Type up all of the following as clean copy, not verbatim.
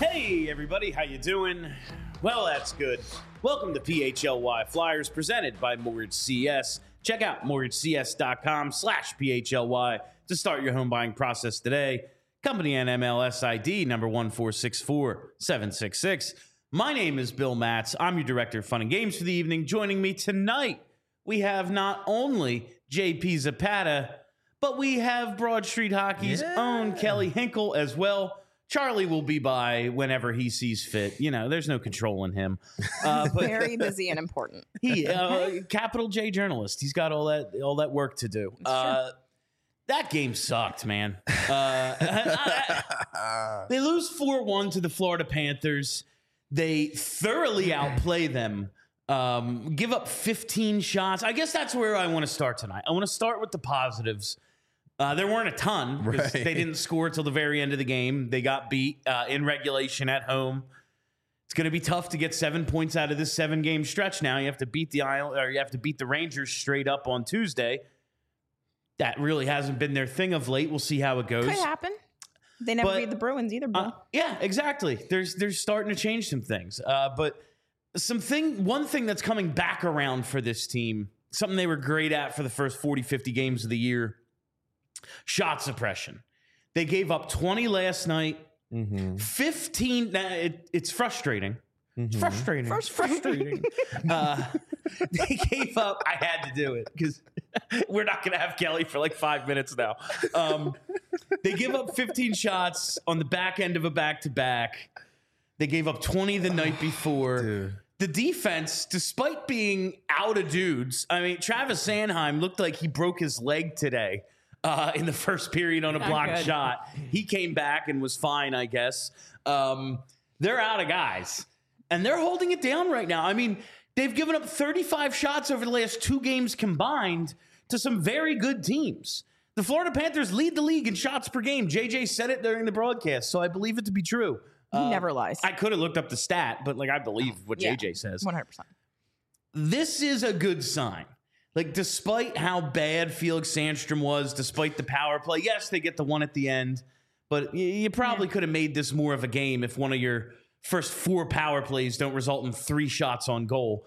Hey everybody, how you doing? Well, that's good. Welcome to PHLY Flyers presented by Mortgage CS. Check out mortgagecs.com/PHLY to start your home buying process today. Company NMLS ID number 1464766. My name is Bill Matz. I'm your director of fun and games for the evening. Joining me tonight, we have not only JP Zapata, but we have Broad Street Hockey's own Kelly Hinkle as well. Charlie will be by whenever he sees fit. You know, there's no controlling him. But very busy and important. He, capital J journalist. He's got all that work to do. That game sucked, man. They lose 4-1 to the Florida Panthers. They thoroughly outplay them. Give up 15 shots. I guess that's where I want to start tonight. I want to start with the positives. There weren't a ton because they didn't score till the very end of the game. They got beat in regulation at home. It's going to be tough to get 7 points out of this 7-game stretch. Now you have to beat the Rangers straight up on Tuesday. That really hasn't been their thing of late. We'll see how it goes. Could happen. They never beat the Bruins either, Bill. Yeah, exactly. They're starting to change some things. But one thing that's coming back around for this team, something they were great at for the first 40, 50 games of the year. Shot suppression. They gave up 20 last night. 15. It's frustrating. It's frustrating. It's frustrating. They gave up. I had to do it because we're not going to have Kelly for like 5 minutes now. They give up 15 shots on the back end of a back-to-back. They gave up 20 the night before. Dude. The defense, despite being out of dudes, I mean, Travis Sanheim looked like he broke his leg today. In the first period on a blocked shot. He came back and was fine, I guess. They're out of guys. And they're holding it down right now. I mean, they've given up 35 shots over the last 2 games combined to some very good teams. The Florida Panthers lead the league in shots per game. JJ said it during the broadcast, so I believe it to be true. He never lies. I could have looked up the stat, but I believe what JJ says. 100%. This is a good sign. Despite how bad Felix Sandstrom was, despite the power play, yes, they get the one at the end, but you probably could have made this more of a game if one of your first 4 power plays don't result in 3 shots on goal.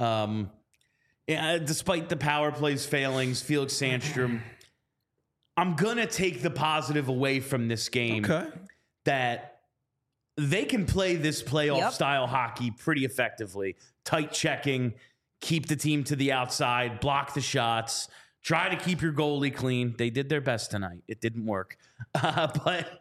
Despite the power plays failings, Felix Sandstrom, I'm going to take the positive away from this game that they can play this playoff-style hockey pretty effectively. Tight checking, keep the team to the outside, block the shots, try to keep your goalie clean. They did their best tonight. It didn't work. But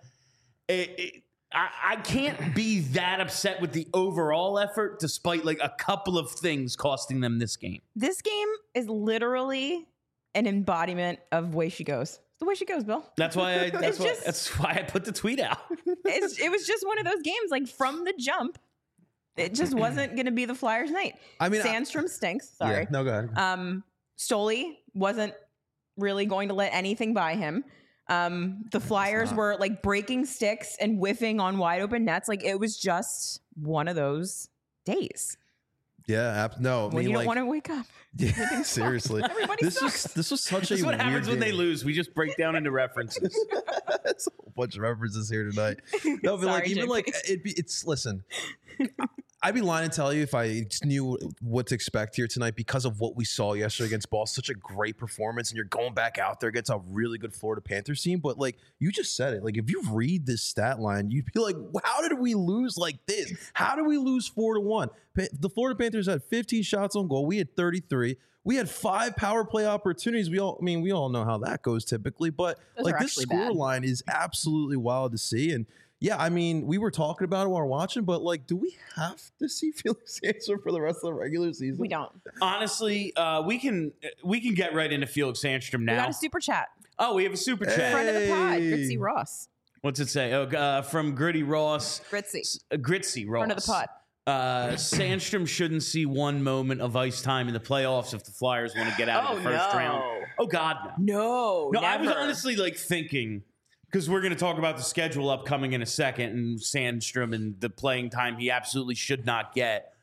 I can't be that upset with the overall effort despite a couple of things costing them this game. This game is literally an embodiment of way she goes. The way she goes, Bill. That's why that's why I put the tweet out. It was just one of those games, from the jump. It just wasn't going to be the Flyers' night. I mean, Sandstrom stinks. Sorry. Yeah, no, go ahead. Stoley wasn't really going to let anything by him. The Flyers were breaking sticks and whiffing on wide open nets. It was just one of those days. Yeah, no. When you don't want to wake up. Yeah, seriously. Everybody sucks. This was such this a what happens when game. they lose. We just break down into references. It's a whole bunch of references here tonight. No, but Sorry, it's listen. I'd be lying to tell you if I knew what to expect here tonight because of what we saw yesterday against Boston. Such a great performance, and you're going back out there against a really good Florida Panthers team. But you just said it. If you read this stat line, you'd be like, how did we lose like this? How did we lose 4-1? The Florida Panthers had 15 shots on goal. We had 33. We had 5 power play opportunities. We all know how that goes typically. But this score line is absolutely wild to see. And yeah, I mean, we were talking about it while we're watching, but do we have to see Felix Sandstrom for the rest of the regular season? We don't. Honestly, we can get right into Felix Sandstrom now. We got a super chat. Oh, we have a super chat. Friend of the pod, Gritzy Ross. What's it say? Oh, from Gritty Ross. Gritzy Ross. Friend of the pod. Sandstrom shouldn't see one moment of ice time in the playoffs if the Flyers want to get out of the first round. Oh God, no. No, I was honestly thinking, because we're going to talk about the schedule upcoming in a second, and Sandstrom and the playing time he absolutely should not get.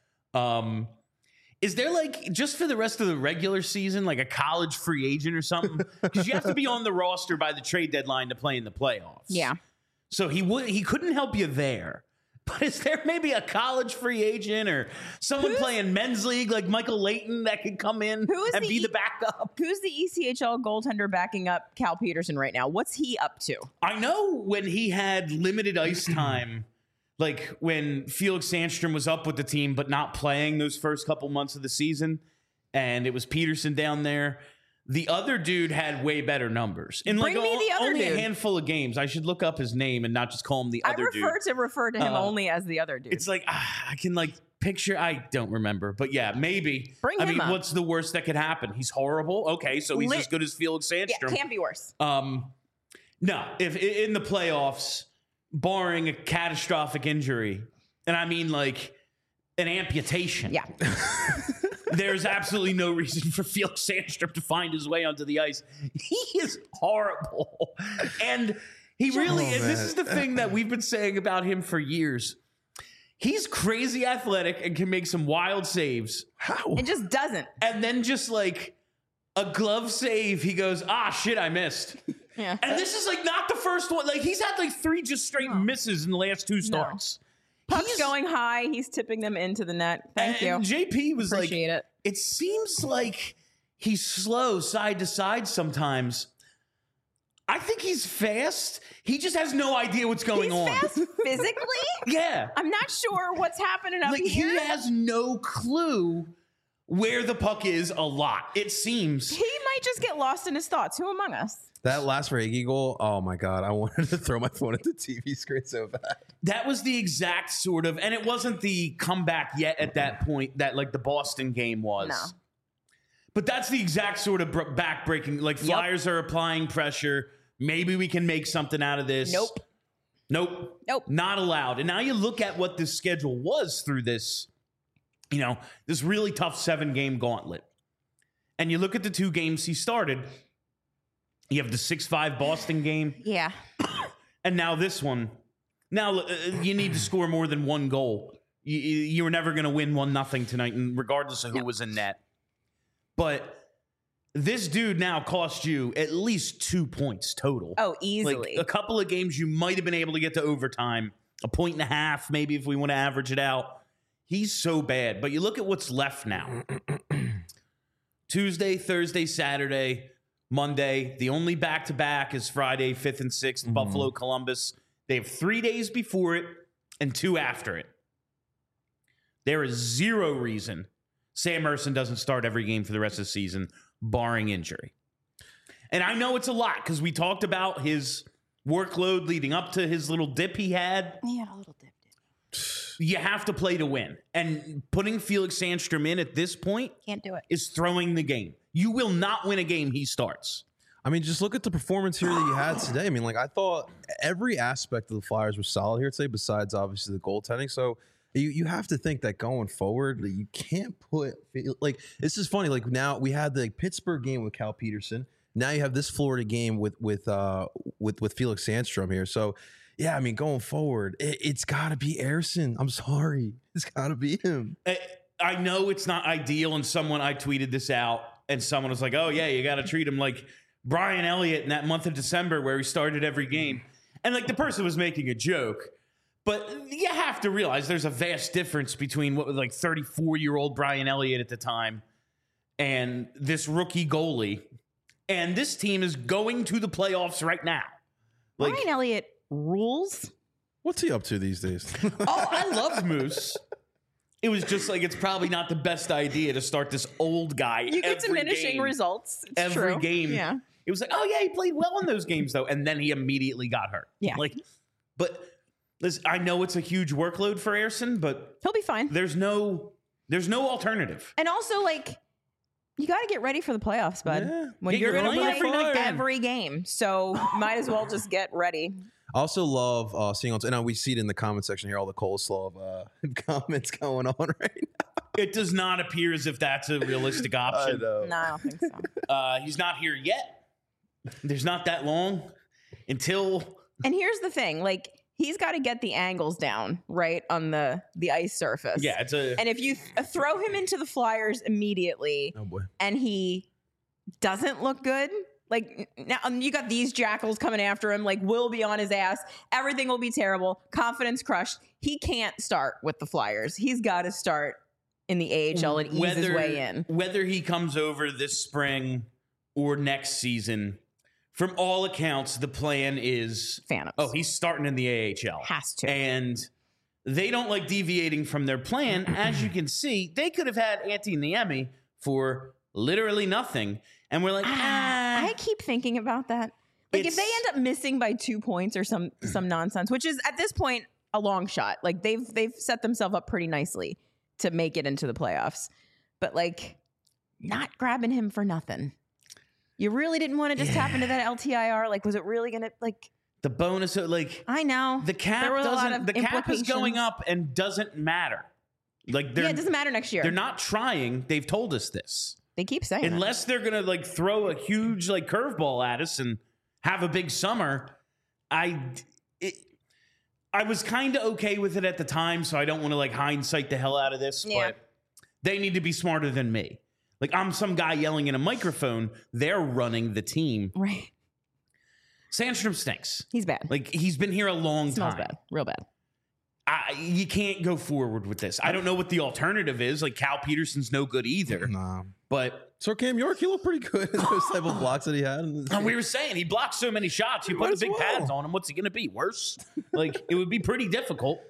Is there just for the rest of the regular season, a college free agent or something? Because you have to be on the roster by the trade deadline to play in the playoffs. Yeah. So he couldn't help you there. But is there maybe a college free agent or someone playing men's league like Michael Layton that could come in and be the backup? Who's the ECHL goaltender backing up Cal Peterson right now? What's he up to? I know when he had limited ice time, like when Felix Sandstrom was up with the team but not playing those first couple months of the season, and it was Peterson down there. The other dude had way better numbers. In like only a handful of games. I should look up his name and not just call him the other dude. I refer to him only as the other dude. It's like, I can like picture, I don't remember. But yeah, maybe. Bring him up. What's the worst that could happen? He's horrible. Okay, so he's as good as Felix Sandstrom. Yeah, can't be worse. No, if in the playoffs, barring a catastrophic injury, and I mean like an amputation. Yeah. There's absolutely no reason for Felix Sandstrom to find his way onto the ice. He is horrible. And he really is. This is the thing that we've been saying about him for years. He's crazy athletic and can make some wild saves. How? It just doesn't. And then just like a glove save, he goes, shit, I missed. Yeah. And this is like not the first one. Like he's had like 3 just straight misses in the last 2 starts. Puck's going high. He's tipping them into the net. Thank you. JP was Appreciate it. It seems like he's slow side to side sometimes. I think he's fast. He just has no idea what's going on. He's fast physically? Yeah. I'm not sure what's happening up here. He has no clue where the puck is a lot, it seems. He might just get lost in his thoughts. Who among us? That last Verhaeghe goal, oh my God, I wanted to throw my phone at the TV screen so bad. That was the exact sort of, and it wasn't the comeback yet at that point that like the Boston game was. No. But that's the exact sort of back-breaking, like Flyers are applying pressure. Maybe we can make something out of this. Nope. Not allowed. And now you look at what this schedule was through this, this really tough 7-game gauntlet. And you look at the 2 games he started. You have the 6-5 Boston game. Yeah. And now this one. Now you need to score more than 1 goal. You were never going to win 1-0 tonight, regardless of who was in net. But this dude now cost you at least 2 points total. Oh, easily. Like a couple of games you might have been able to get to overtime. 1.5 points, maybe if we want to average it out. He's so bad. But you look at what's left now. Tuesday, Thursday, Saturday, Monday. The only back-to-back is Friday, 5th and 6th, Buffalo, Columbus. They have 3 days before it and 2 after it. There is 0 reason Sam Ersson doesn't start every game for the rest of the season, barring injury. And I know it's a lot because we talked about his workload leading up to his little dip he had. He had a little dip. You have to play to win. And putting Felix Sandstrom in at this point Can't do it. is throwing the game. You will not win a game he starts. I mean, just look at the performance here that you had today. I mean, like I thought every aspect of the Flyers was solid here today, besides obviously the goaltending. So you have to think that going forward, you can't put like this is funny. Like now we had the Pittsburgh game with Cal Peterson. Now you have this Florida game with Felix Sandstrom here. So yeah, I mean, going forward, it's got to be Ersson. I'm sorry, it's got to be him. I know it's not ideal, and I tweeted this out, and someone was like, "Oh yeah, you got to treat him like Brian Elliott in that month of December where he started every game," and like the person was making a joke. But you have to realize there's a vast difference between what was like 34-year-old Brian Elliott at the time and this rookie goalie. And this team is going to the playoffs right now. Like, Brian Elliott rules. What's he up to these days? I love Moose. It was just like, it's probably not the best idea to start this old guy. You get diminishing results. It's every true. game. Yeah. It was like, oh yeah, he played well in those games though. And then he immediately got hurt. Yeah. But listen, I know it's a huge workload for Ersson, but he'll be fine. There's no alternative. And also, like, you got to get ready for the playoffs, bud. Yeah. When you're going to play every every game. So might as well just get ready. I also love seeing on, and we see it in the comment section here, all the coleslaw of comments going on right now. It does not appear as if that's a realistic option. I know. No, I don't think so. He's not here yet. There's not that long until. And here's the thing, like, he's got to get the angles down, right, on the ice surface. Yeah, and if you throw him into the Flyers immediately Oh boy. and he doesn't look good, Like now you got these jackals coming after him. Like will be on his ass. Everything will be terrible. Confidence crushed. He can't start with the Flyers. He's got to start in the AHL and ease his way in. Whether he comes over this spring or next season, from all accounts, the plan is Phantoms. Oh, he's starting in the AHL. Has to. And they don't like deviating from their plan. As you can see, they could have had Antti Niemi for literally nothing. And we're like, I keep thinking about that. Like if they end up missing by 2 points or some nonsense, which is at this point a long shot. Like they've set themselves up pretty nicely to make it into the playoffs. But like not grabbing him for nothing. You really didn't want to just tap into that LTIR? Like, was it really going to, like... The bonus, like... I know. The cap doesn't... The cap is going up and doesn't matter. Like, yeah, it doesn't matter next year. They're not trying. They've told us this. They keep saying Unless they're going to, like, throw a huge, like, curveball at us and have a big summer, I was kind of okay with it at the time, so I don't want to, like, hindsight the hell out of this, but they need to be smarter than me. Like, I'm some guy yelling in a microphone. They're running the team. Right. Sandstrom stinks. He's bad. Like, he's been here a long Smells time. bad. Real bad. You can't go forward with this. I don't know what the alternative is. Like, Cal Peterson's no good either. Nah. But... So Cam York, he looked pretty good in those type of blocks that he had. And we were saying, he blocked so many shots. You put the big pads on him. What's he going to be? Worse? Like, it would be pretty difficult.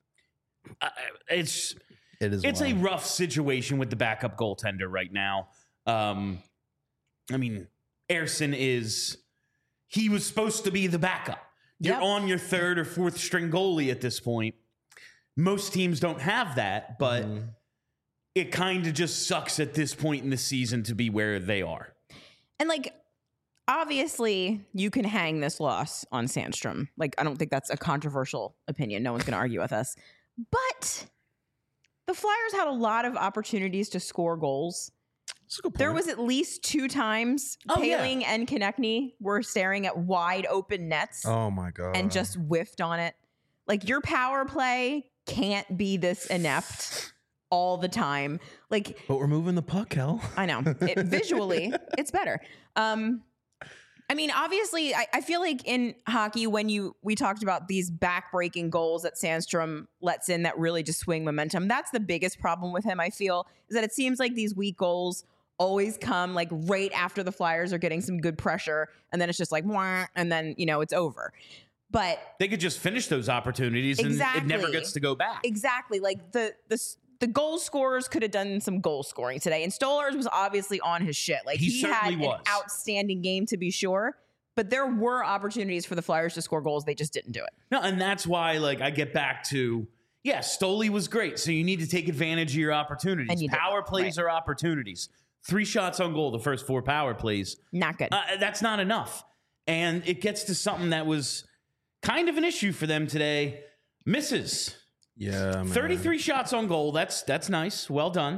It's a rough situation with the backup goaltender right now. I mean, Ersson he was supposed to be the backup. You're on your third or fourth string goalie at this point. Most teams don't have that, but it kind of just sucks at this point in the season to be where they are. And like, obviously you can hang this loss on Sandstrom. Like, I don't think that's a controversial opinion. No one's going to argue with us, but the Flyers had a lot of opportunities to score goals. That's a good point. There was at least 2 times Paling and Konechny were staring at wide open nets. Oh my God. And just whiffed on it. Like, your power play can't be this inept all the time. Like, but we're moving the puck, Hell. I know. Visually, it's better. I mean, obviously, I feel like in hockey, when we talked about these back-breaking goals that Sandstrom lets in that really just swing momentum, that's the biggest problem with him, I feel, is that it seems like these weak goals always come like right after the Flyers are getting some good pressure, and then it's just like, wah, and then, it's over. But they could just finish those opportunities and it never gets to go back. Exactly. Like the goal scorers could have done some goal scoring today. And Stolarz was obviously on his shit. Like he had an outstanding game to be sure, but there were opportunities for the Flyers to score goals. They just didn't do it. No, and that's why I get back to, Stoli was great. So you need to take advantage of your opportunities. Power plays are opportunities. 3 shots on goal the first 4 power plays. Not good. That's not enough. And it gets to something that was kind of an issue for them today. Misses. Yeah, man. 33 shots on goal. That's nice. Well done.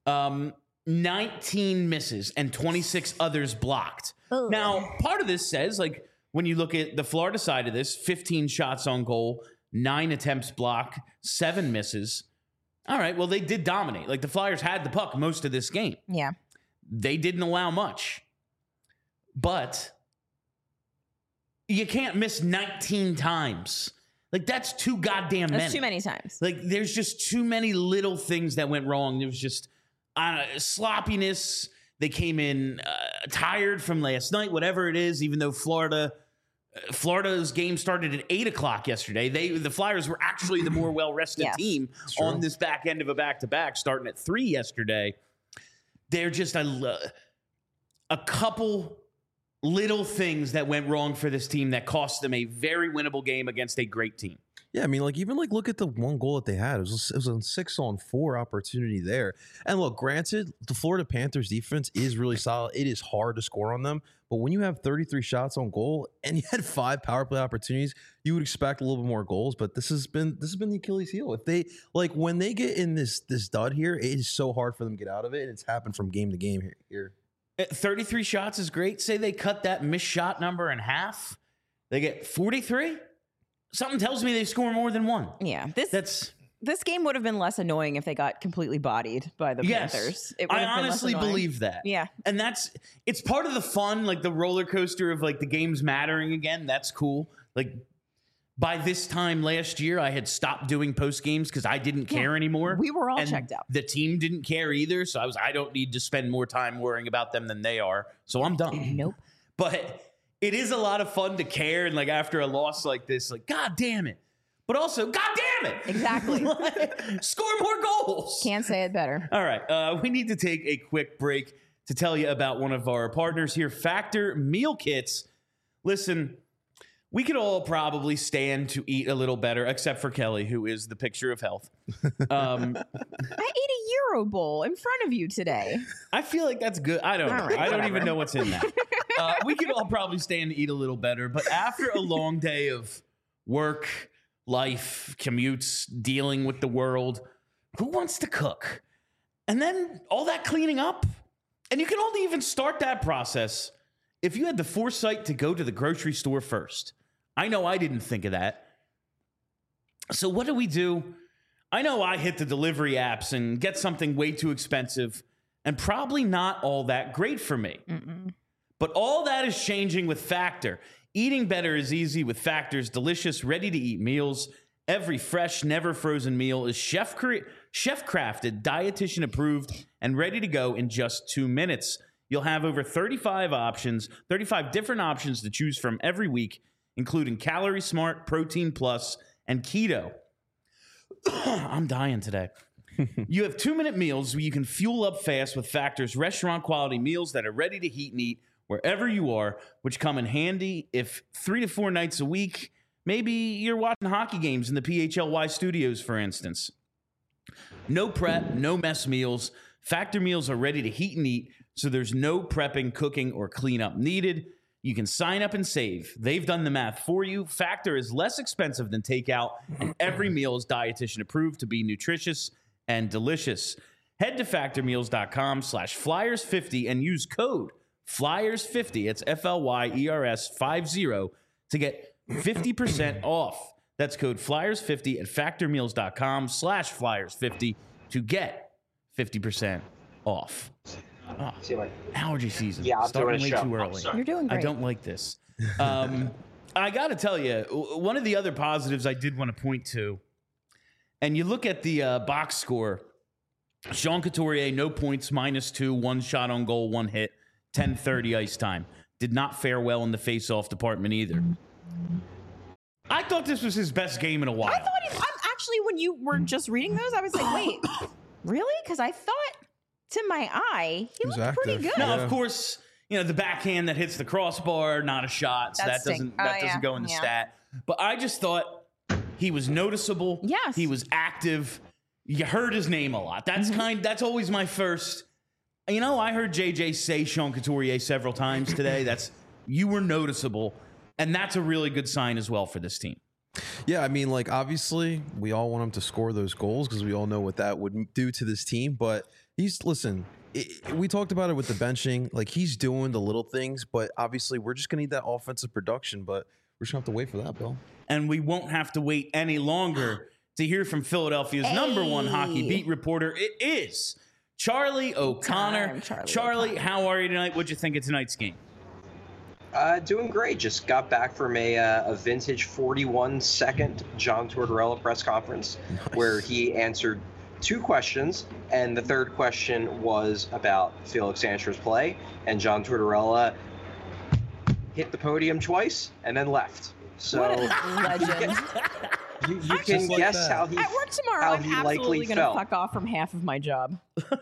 19 misses and 26 others blocked. Ugh. Now, part of this says, when you look at the Florida side of this, 15 shots on goal, 9 attempts blocked, 7 misses. All right, well, they did dominate. Like, the Flyers had the puck most of this game. Yeah. They didn't allow much. But you can't miss 19 times. Like, that's too goddamn many. That's too many times. Like, there's just too many little things that went wrong. There was just sloppiness. They came in tired from last night, whatever it is, even though Florida's game started at 8 o'clock yesterday. The Flyers were actually the more well-rested team on this back end of a back-to-back, starting at 3 yesterday. They're just a couple little things that went wrong for this team that cost them a very winnable game against a great team. Yeah, I mean, look at the one goal that they had. It was a 6-on-4 opportunity there. And look, granted, the Florida Panthers defense is really solid. It is hard to score on them. But when you have 33 shots on goal and you had 5 power play opportunities, you would expect a little bit more goals. But this has been the Achilles heel. If they when they get in this dud here, it is so hard for them to get out of it. And it's happened from game to game here. 33 shots is great. Say they cut that missed shot number in half. They get 43. Something tells me they score more than 1. Yeah. This game would have been less annoying if they got completely bodied by the Panthers. It would I have been less honestly annoying. believe that. Yeah. And it's part of the fun, like the roller coaster of like the games mattering again. That's cool. Like by this time last year, I had stopped doing post games because I didn't care anymore. We were all and checked out. The team didn't care either. So I don't need to spend more time worrying about them than they are. So I'm done. Nope. But it is a lot of fun to care. And like after a loss like this, like, God damn it. But also, God damn it. Exactly. Score more goals. Can't say it better. All right. We need to take a quick break to tell you about one of our partners here, Factor Meal Kits. Listen, we could all probably stand to eat a little better, except for Kelly, who is the picture of health. I ate a Euro bowl in front of you today. I feel like that's good. I don't know. right, I don't whatever. even know what's in that. We could all probably stand to eat a little better, but after a long day of work, life, commutes, dealing with the world, who wants to cook? And then all that cleaning up. And you can only even start that process if you had the foresight to go to the grocery store first. I know I didn't think of that. So what do? I know I hit the delivery apps and get something way too expensive and probably not all that great for me. But all that is changing with Factor. Eating better is easy with Factor's delicious, ready-to-eat meals. Every fresh, never frozen meal is chef-crafted, dietitian-approved, and ready to go in just 2 minutes. You'll have over 35 different options to choose from every week, including Calorie Smart, Protein Plus, and Keto. I'm dying today. You have 2-minute meals where you can fuel up fast with Factor's restaurant-quality meals that are ready to heat and eat wherever you are, which come in handy if 3 to 4 nights a week, maybe you're watching hockey games in the PHLY studios, for instance. No prep, no mess meals. Factor meals are ready to heat and eat, so there's no prepping, cooking, or cleanup needed. You can sign up and save. They've done the math for you. Factor is less expensive than takeout, and every meal is dietitian approved to be nutritious and delicious. Head to factormeals.com/flyers50 and use code FLYERS50. It's FLYERS50 to get 50% off. That's code FLYERS50 at factormeals.com/flyers50 to get 50% off. Oh, See you later. allergy season. Yeah, I'm starting doing way a show. too I'm early. sorry. You're doing great. I don't like this. I got to tell you, one of the other positives I did want to point to, and you look at the box score, Sean Couturier, no points, -2, 1 shot on goal, 1 hit, 10:30 ice time. Did not fare well in the face-off department either. I thought this was his best game in a while. I thought I'm actually, when you were just reading those, I was like, wait, really? Because I thought to my eye, he was looked pretty active. good. Now, Yeah. of course, the backhand that hits the crossbar, not a shot, so That that doesn't go in the yeah. stat. But I just thought he was noticeable. Yes. He was active. You heard his name a lot. That's that's always my first. I heard JJ say Sean Couturier several times today. You were noticeable, and that's a really good sign as well for this team. Yeah, I mean, like, obviously, we all want him to score those goals because we all know what that would do to this team. But we talked about it with the benching. Like, he's doing the little things, but obviously, we're just going to need that offensive production. But we're just going to have to wait for that, Bill. And we won't have to wait any longer to hear from Philadelphia's number one hockey beat reporter. It is Charlie O'Connor. Charlie, how are you tonight? What'd you think of tonight's game? Doing great. Just got back from a vintage 41-second John Tortorella press conference where he answered 2 questions, and the third question was about Felix Sandstrom's play, and John Tortorella hit the podium twice and then left. So What a legend. you can like guess that. how he At work tomorrow, how I'm he absolutely likely going to felt. fuck off from half of my job.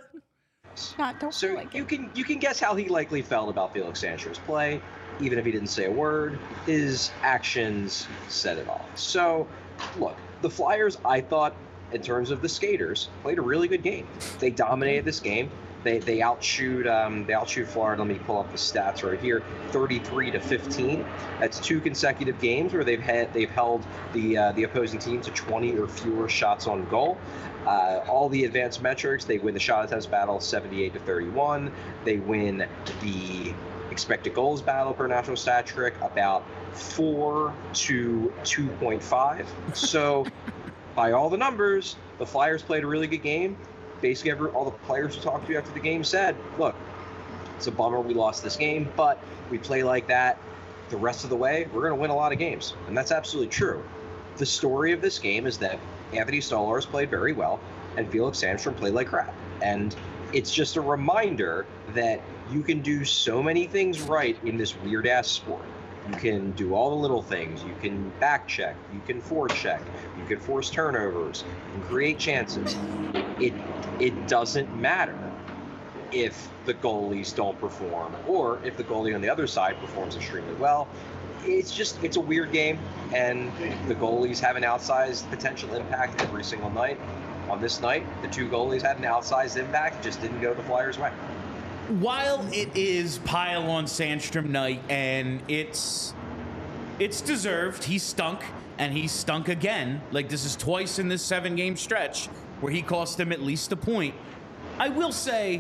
Don't So like you it. can guess how he likely felt about Felix Sandstrom's play, even if he didn't say a word. His actions said it all. So, look, the Flyers, I thought, in terms of the skaters, played a really good game. They dominated this game. They outshoot Florida. Let me pull up the stats right here. 33-15. That's 2 consecutive games where they've held the opposing team to 20 or fewer shots on goal. All the advanced metrics, they win the shot attempts battle 78-31. They win the expected goals battle per National Stat Trick about 4 to 2.5. So, by all the numbers, the Flyers played a really good game. Basically, all the players who talked to after the game said, look, it's a bummer we lost this game, but we play like that the rest of the way, we're going to win a lot of games. And that's absolutely true. The story of this game is that Anthony Stolarz played very well and Felix Sandstrom played like crap. And it's just a reminder that you can do so many things right in this weird-ass sport. You can do all the little things. You can back check. You can forecheck. You can force turnovers. You can create chances. It doesn't matter if the goalies don't perform or if the goalie on the other side performs extremely well. It's a weird game, and the goalies have an outsized potential impact every single night. On this night, the two goalies had an outsized impact, just didn't go the Flyers' way. While it is pile on Sandstrom night, and it's deserved, he stunk, and he stunk again. Like, this is twice in this 7-game stretch where he cost them at least a point. I will say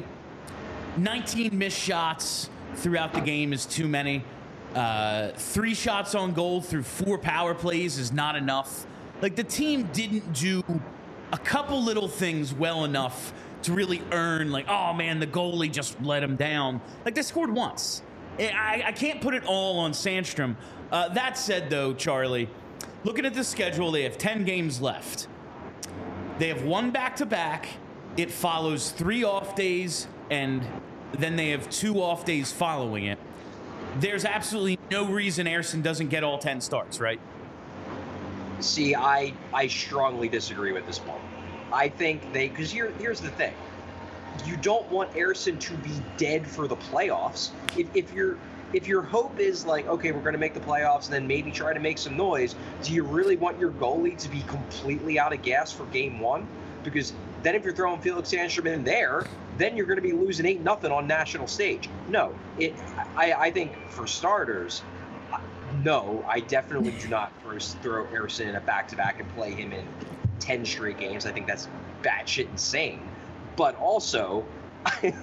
19 missed shots throughout the game is too many. 3 shots on goal through 4 power plays is not enough. Like, the team didn't do a couple little things well enough to really earn, like, oh man, the goalie just let him down. Like, they scored once. I can't put it all on Sandstrom. That said, though, Charlie, looking at the schedule, they have 10 games left. They have 1 back-to-back. It follows 3 off days, and then they have 2 off days following it. There's absolutely no reason Ersson doesn't get all 10 starts, right? See, I strongly disagree with this one. I think because here's the thing. You don't want Ersson to be dead for the playoffs. If your hope is like, okay, we're going to make the playoffs and then maybe try to make some noise, do you really want your goalie to be completely out of gas for game 1? Because then if you're throwing Felix Sandstrom in there, then you're going to be losing 8-0 on national stage. No, I think for starters, no, I definitely do not throw Ersson in a back-to-back and play him in 10 straight games. I think that's batshit insane. But also, 10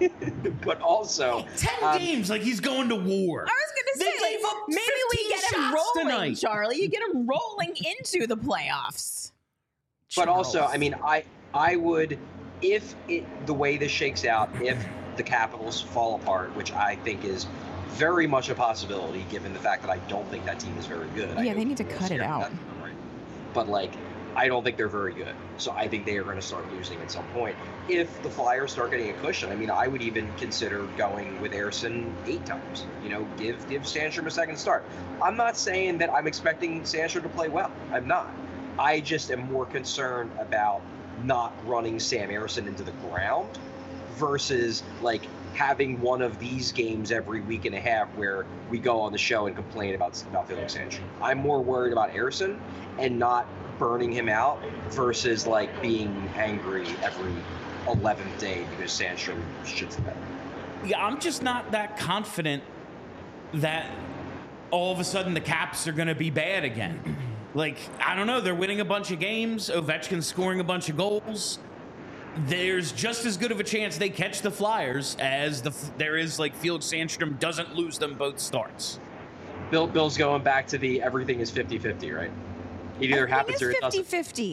games, like he's going to war. I was going to say, gave up maybe we get him rolling, tonight. Charlie. You get him rolling into the playoffs. But also, I mean, I would, if the way this shakes out, if the Capitals fall apart, which I think is very much a possibility, given the fact that I don't think that team is very good. Yeah, they need to cut it out. But, like, I don't think they're very good. So I think they are going to start losing at some point. If the Flyers start getting a cushion, I mean, I would even consider going with Ersson 8 times. You know, give Sandstrom a second start. I'm not saying that I'm expecting Sandstrom to play well. I'm not. I just am more concerned about not running Sam Ersson into the ground versus, like, having one of these games every week and a half where we go on the show and complain about Felix Sandstrom. I'm more worried about Ersson and not burning him out versus, like, being angry every 11th day because Sandstrom shits the bed. Yeah, I'm just not that confident that all of a sudden the Caps are going to be bad again. Like, I don't know. They're winning a bunch of games. Ovechkin's scoring a bunch of goals. There's just as good of a chance they catch the Flyers as there is, like, Felix Sandstrom doesn't lose them both starts. Bill's going back to the everything is 50-50, right? It either happens or it doesn't.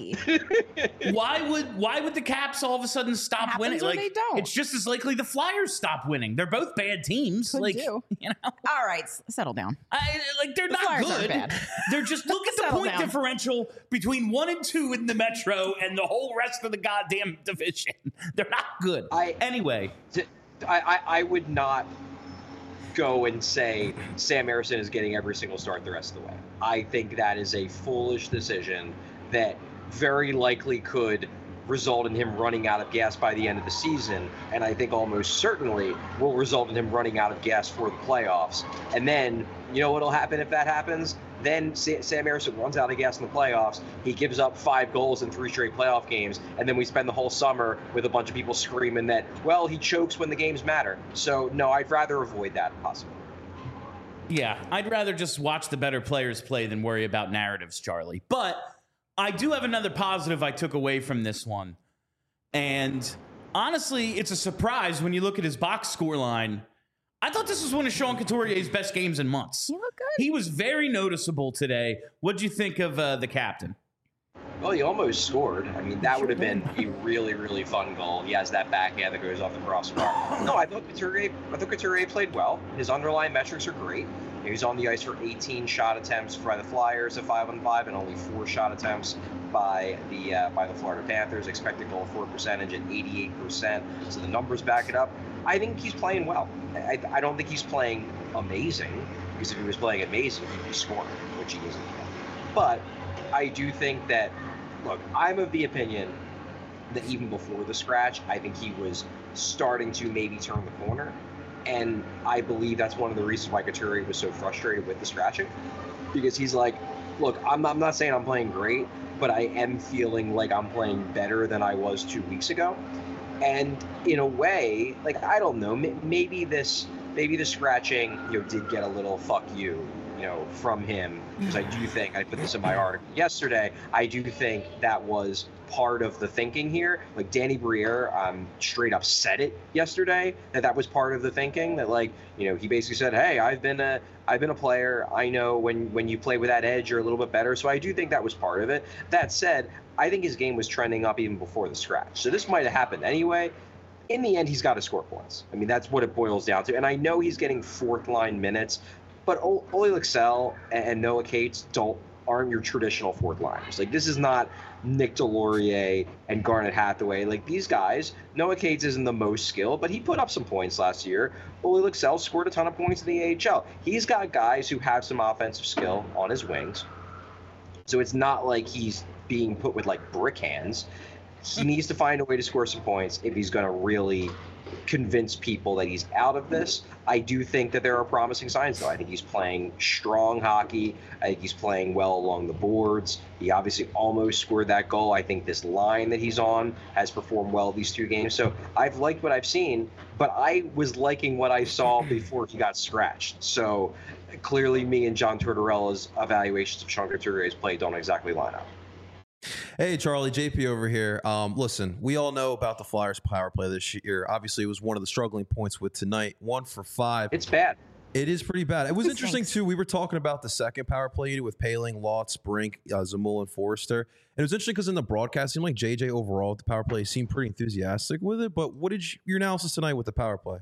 50-50. Why would the Caps all of a sudden stop winning? When Like, they don't. It's just as likely the Flyers stop winning. They're both bad teams. Could like, do. you know, All right, settle down. they're not Flyers good. aren't bad. They're just look at the Settle point down. differential between 1 and 2 in the Metro and the whole rest of the goddamn division. They're not good. Anyway, I would not go and say Sam Ersson is getting every single start the rest of the way. I think that is a foolish decision that very likely could result in him running out of gas by the end of the season, and I think almost certainly will result in him running out of gas for the playoffs. And then, you know what'll happen if that happens? Then Sam Ersson runs out of gas in the playoffs. He gives up 5 goals in 3 straight playoff games, and then we spend the whole summer with a bunch of people screaming that, well, he chokes when the games matter. So, no, I'd rather avoid that possibly. yeah, I'd rather just watch the better players play than worry about narratives, Charlie. But I do have another positive I took away from this one. And honestly, it's a surprise when you look at his box score line. I thought this was one of Sean Couturier's best games in months. You look good. He was very noticeable today. What'd you think of the captain? Well, he almost scored. I mean, that would have been a really, really fun goal. He has that backhand that goes off the crossbar. No, I thought Couturier played well. His underlying metrics are great. He was on the ice for 18 shot attempts by the Flyers at 5-on-5 and only 4 shot attempts by the Florida Panthers. Expected goal for percentage at 88%. So the numbers back it up. I think he's playing well. I don't think he's playing amazing, because if he was playing amazing, he'd be scoring, which he isn't. But I do think that, look, I'm of the opinion that even before the scratch, I think he was starting to maybe turn the corner. And I believe that's one of the reasons why Couturier was so frustrated with the scratching, because he's like, look, I'm not saying I'm playing great, but I am feeling like I'm playing better than I was 2 weeks ago. And in a way, like, I don't know, maybe the scratching, did get a little fuck you, from him, because I do think, I put this in my article yesterday, I do think that was part of the thinking here. Like, Danny Briere straight up said it yesterday, that was part of the thinking, that, like, he basically said, hey, I've been a player, I know when you play with that edge, you're a little bit better. So I do think that was part of it. That said, I think his game was trending up even before the scratch. So this might have happened anyway. In the end, he's got to score points. I mean, that's what it boils down to. And I know he's getting fourth line minutes, but Ole Lycksell and Noah Cates aren't your traditional fourth liners. Like, this is not Nick Delorier and Garnet Hathaway. Like, these guys, Noah Cates isn't the most skilled, but he put up some points last year. Ole Lycksell scored a ton of points in the AHL. He's got guys who have some offensive skill on his wings. So it's not like he's being put with, like, brick hands. He needs to find a way to score some points if he's going to really convince people that he's out of this. I do think that there are promising signs, though. I think he's playing strong hockey. I think he's playing well along the boards. He obviously almost scored that goal. I think this line that he's on has performed well these 2 games. So I've liked what I've seen, but I was liking what I saw before he got scratched. So clearly me and John Tortorella's evaluations of Sean Couturier's play don't exactly line up. Hey, Charlie, JP over here. Listen, we all know about the Flyers power play this year. Obviously, it was one of the struggling points with tonight. 1 for 5. It's bad. It is pretty bad. It was interesting, too. We were talking about the second power play unit with Paling, Lotz, Brink, Zamula, and Forrester. And it was interesting because in the broadcast, it seemed like JJ overall, the power play seemed pretty enthusiastic with it. But what did your analysis tonight with the power play?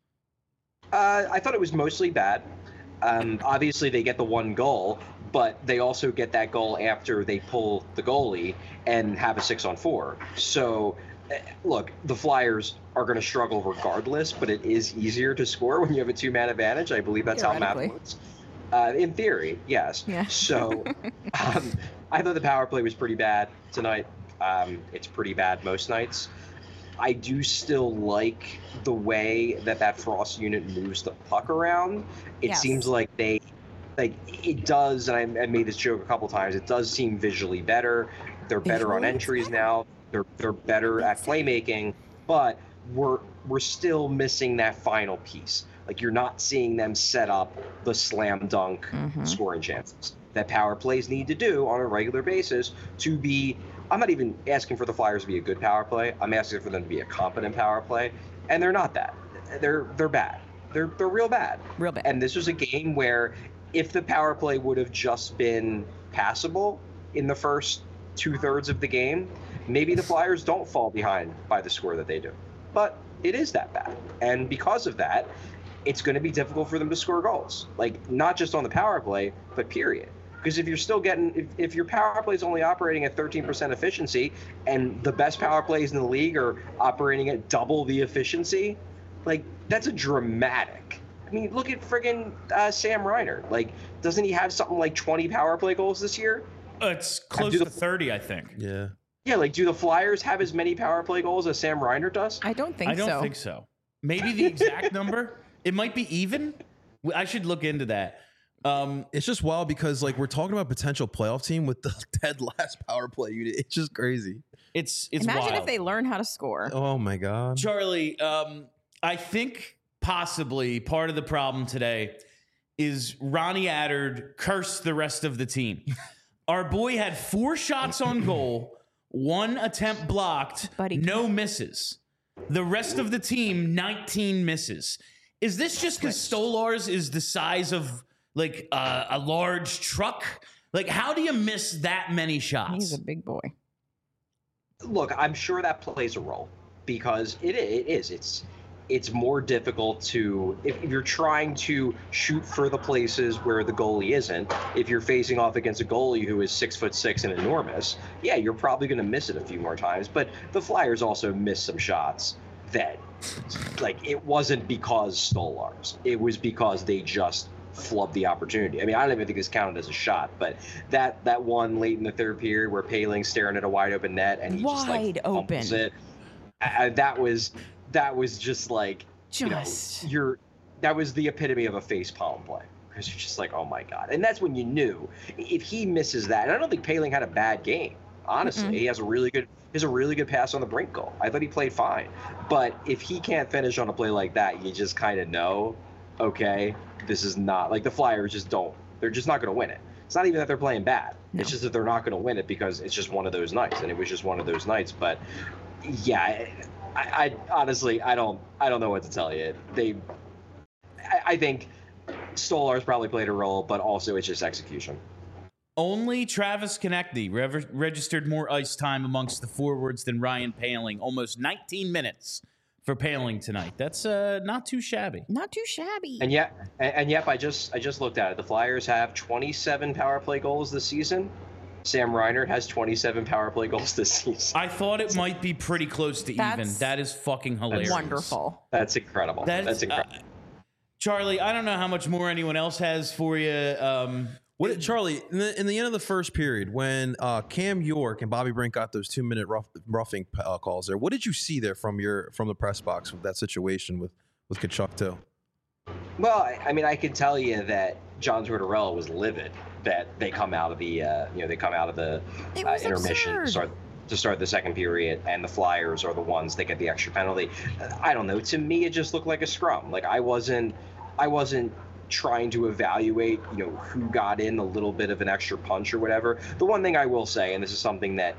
I thought it was mostly bad. Obviously, they get the 1 goal, but they also get that goal after they pull the goalie and have a 6-on-4. So, look, the Flyers are going to struggle regardless, but it is easier to score when you have a 2-man advantage. I believe that's how math works. In theory, yes. Yeah. So, I thought the power play was pretty bad tonight. It's pretty bad most nights. I do still like the way that Frost unit moves the puck around. It seems like it does, and I made this joke a couple times, it does seem visually better. They're better on entries now. They're better at playmaking, but we're still missing that final piece. Like, you're not seeing them set up the slam dunk scoring chances that power plays need to do on a regular basis to be. I'm not even asking for the Flyers to be a good power play. I'm asking for them to be a competent power play, and they're not that. They're bad. They're real bad. Real bad. And this was a game where if the power play would have just been passable in the first 2/3 of the game, maybe the Flyers don't fall behind by the score that they do. But it is that bad. And because of that, it's going to be difficult for them to score goals. Like, not just on the power play, but period. Because if you're still if your power play is only operating at 13% efficiency and the best power plays in the league are operating at double the efficiency, like, that's a dramatic. I mean, look at friggin' Sam Reiner. Like, doesn't he have something like 20 power play goals this year? It's close to 30, I think. Yeah. Yeah, like, do the Flyers have as many power play goals as Sam Reiner does? I don't think so. I don't think so. Maybe the exact number. It might be even. I should look into that. It's just wild because, like, we're talking about potential playoff team with the dead last power play unit. It's just crazy. It's Imagine wild. if they learn how to score. Oh my God, Charlie. I think possibly part of the problem today is Ronnie Attard cursed the rest of the team. Our boy had 4 shots on goal, 1 attempt blocked, no misses. The rest of the team, 19 misses. Is this just because Stolarz is the size of like a large truck Like, how do you miss that many shots? He's a big boy. Look, I'm sure that plays a role because it is. It's more difficult to if you're trying to shoot for the places where the goalie isn't. If you're facing off against a goalie who is 6'6" and enormous, yeah, you're probably going to miss it a few more times. But the Flyers also missed some shots that, like, it wasn't because Stolarz. It was because they just flubbed the opportunity. I mean, I don't even think this counted as a shot, but that one late in the third period where Poehling's staring at a wide open net and he just like fumbles it. That was just like, that was the epitome of a face palm play. Because you're just like, oh my God. And that's when you knew if he misses that. And I don't think Poehling had a bad game. Honestly, he has a really good pass on the brink goal. I thought he played fine. But if he can't finish on a play like that, you just kind of know, okay, this is not like the Flyers just don't. They're just not going to win it. It's not even that they're playing bad. No. It's just that they're not going to win it because it's just one of those nights. And it was just one of those nights. But yeah, I honestly, I don't know what to tell you. I think Stolarz probably played a role, but also it's just execution. Only Travis Konecny registered more ice time amongst the forwards than Ryan Poehling. Almost 19 minutes for Poehling tonight. That's not too shabby. Not too shabby. And yep, I just looked at it. The Flyers have 27 power play goals this season. Sam Reinhart has 27 power play goals this season. I thought it might be pretty close to even. That is fucking hilarious. Wonderful. That's incredible. That's incredible. Charlie, I don't know how much more anyone else has for you. Charlie, in the end of the first period, when Cam York and Bobby Brink got those 2-minute roughing calls there, what did you see there from the press box with that situation with Tkachuk too? Well, I mean, I can tell you that John Tortorella was livid that they come out of the intermission to start the second period, and the Flyers are the ones that get the extra penalty. I don't know. To me, it just looked like a scrum. Like I wasn't trying to evaluate, who got in a little bit of an extra punch or whatever. The one thing I will say, and this is something that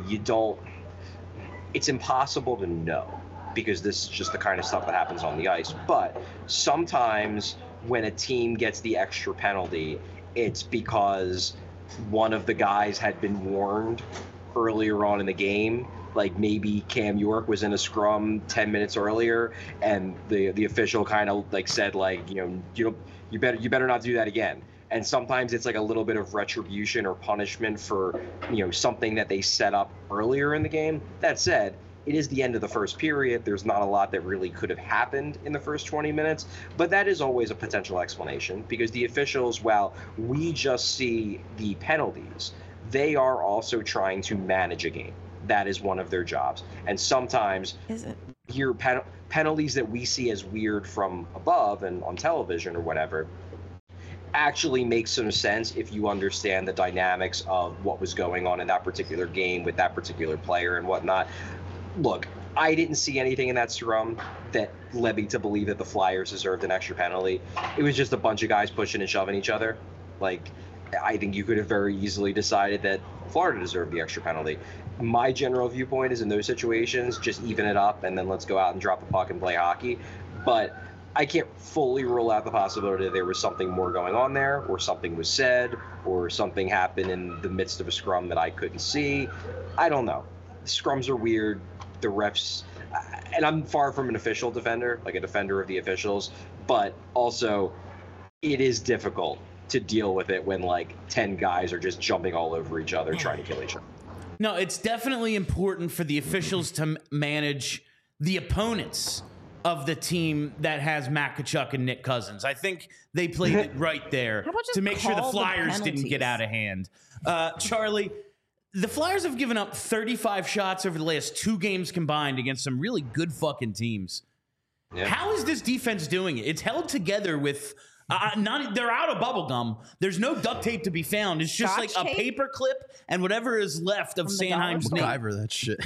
it's impossible to know because this is just the kind of stuff that happens on the ice. But sometimes when a team gets the extra penalty, it's because one of the guys had been warned earlier on in the game. Like maybe Cam York was in a scrum 10 minutes earlier, and the official kind of like said like, you better not do that again. And sometimes it's like a little bit of retribution or punishment for something that they set up earlier in the game. That said, it is the end of the first period. There's not a lot that really could have happened in the first 20 minutes, but that is always a potential explanation because the officials, while we just see the penalties, they are also trying to manage a game. That is one of their jobs. And sometimes your penalties that we see as weird from above and on television or whatever actually make some sense if you understand the dynamics of what was going on in that particular game with that particular player and whatnot. Look, I didn't see anything in that scrum that led me to believe that the Flyers deserved an extra penalty. It was just a bunch of guys pushing and shoving each other. Like, I think you could have very easily decided that Florida deserved the extra penalty. My general viewpoint is in those situations, just even it up and then let's go out and drop the puck and play hockey. But I can't fully rule out the possibility that there was something more going on there, or something was said, or something happened in the midst of a scrum that I couldn't see. I don't know. The scrums are weird. The refs, and I'm far from an official defender, like a defender of the officials, but also it is difficult to deal with it when like 10 guys are just jumping all over each other trying to kill each other. No, it's definitely important for the officials to manage the opponents of the team that has Matt Tkachuk and Nick Cousins. I think they played it right there to make sure the Flyers didn't get out of hand. Charlie, the Flyers have given up 35 shots over the last 2 games combined against some really good fucking teams. Yeah. How is this defense doing it? It's held together with they're out of bubble gum. There's no duct tape to be found. It's just Scotch like tape? A paper clip and whatever is left of Sanheim's name. MacGyver that shit.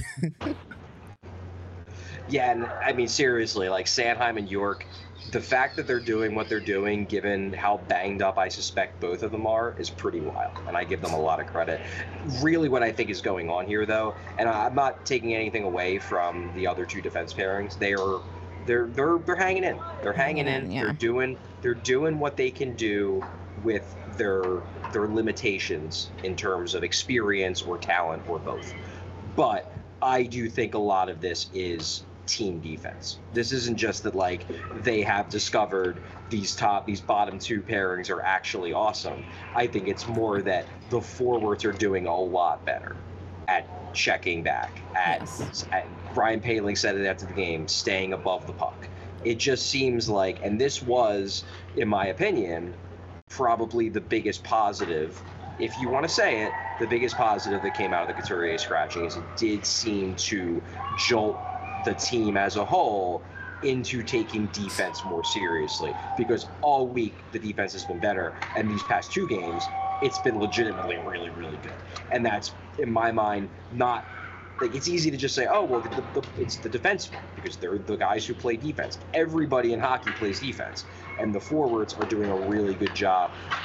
Yeah, and I mean seriously, like Sanheim and York, the fact that they're doing what they're doing, given how banged up I suspect both of them are, is pretty wild, and I give them a lot of credit. Really, what I think is going on here, though, and I'm not taking anything away from the other 2 defense pairings. They're hanging in. They're hanging in. Yeah. They're doing what they can do with their their limitations in terms of experience or talent or both. But I do think a lot of this is team defense. This isn't just that like they have discovered these bottom two pairings are actually awesome. I think it's more that the forwards are doing a lot better at checking back, at Ryan Poehling said it after the game, staying above the puck. It just seems like, and this was, in my opinion, probably the biggest positive, if you want to say it, the biggest positive that came out of the Couturier scratching is it did seem to jolt the team as a whole into taking defense more seriously, because all week the defense has been better, and these past two games it's been legitimately really, really good. And that's, in my mind, not like, it's easy to just say, oh, well, it's the defensemen, because they're the guys who play defense. Everybody in hockey plays defense, and the forwards are doing a really good job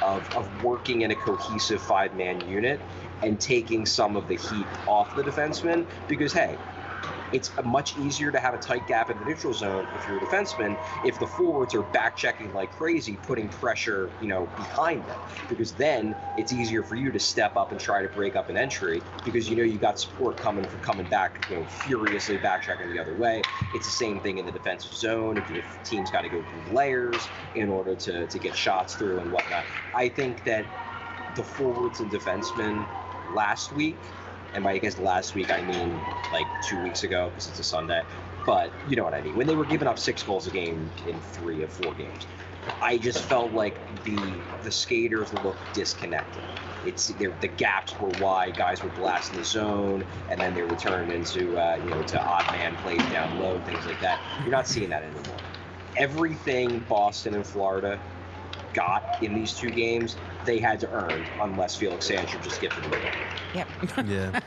of working in a cohesive five-man unit and taking some of the heat off the defensemen, because, hey, it's much easier to have a tight gap in the neutral zone if you're a defenseman, if the forwards are back checking like crazy, putting pressure, behind them, because then it's easier for you to step up and try to break up an entry, because you got support coming back, furiously back checking the other way. It's the same thing in the defensive zone. If teams got to go through layers in order to get shots through and whatnot. I think that the forwards and defensemen last week, and by I guess last week I mean like 2 weeks ago, because it's a Sunday, but you know what I mean. When they were giving up 6 goals a game in 3 of 4 games, I just felt like the skaters looked disconnected. The gaps were wide, guys were blasting the zone, and then they were turned into to odd man plays down low, things like that. You're not seeing that anymore. Everything Boston and Florida got in these 2 games, they had to earn, unless Felix Sandstrom just gifted them away. Yep. Yeah.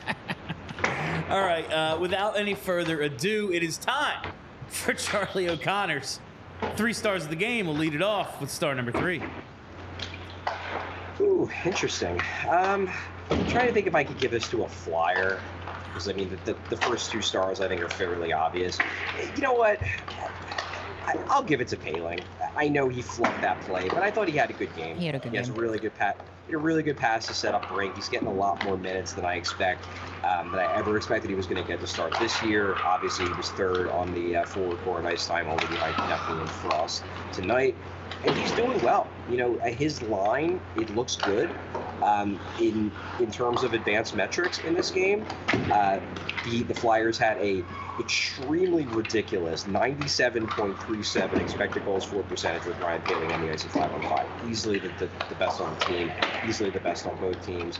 All right, without any further ado, it is time for Charlie O'Connor's 3 stars of the game. We'll lead it off with star number 3. Ooh, interesting. I'm trying to think if I could give this to a Flyer, because I mean the first 2 stars I think are fairly obvious. You know what? I'll give it to Poehling. I know he flunked that play, but I thought he had a good game. He had a good game. He has a really good pass to set up Brink. He's getting a lot more minutes than I ever expected he was going to get to start this year. Obviously, he was 3rd on the forward core in ice time, only behind Duffy and Frost tonight. And he's doing well. His line, it looks good. In terms of advanced metrics in this game, the Flyers had a extremely ridiculous 97.37 expected goals for percentage with Ryan Poehling on the ice at 5-on-5. Easily the best on the team. Easily the best on both teams.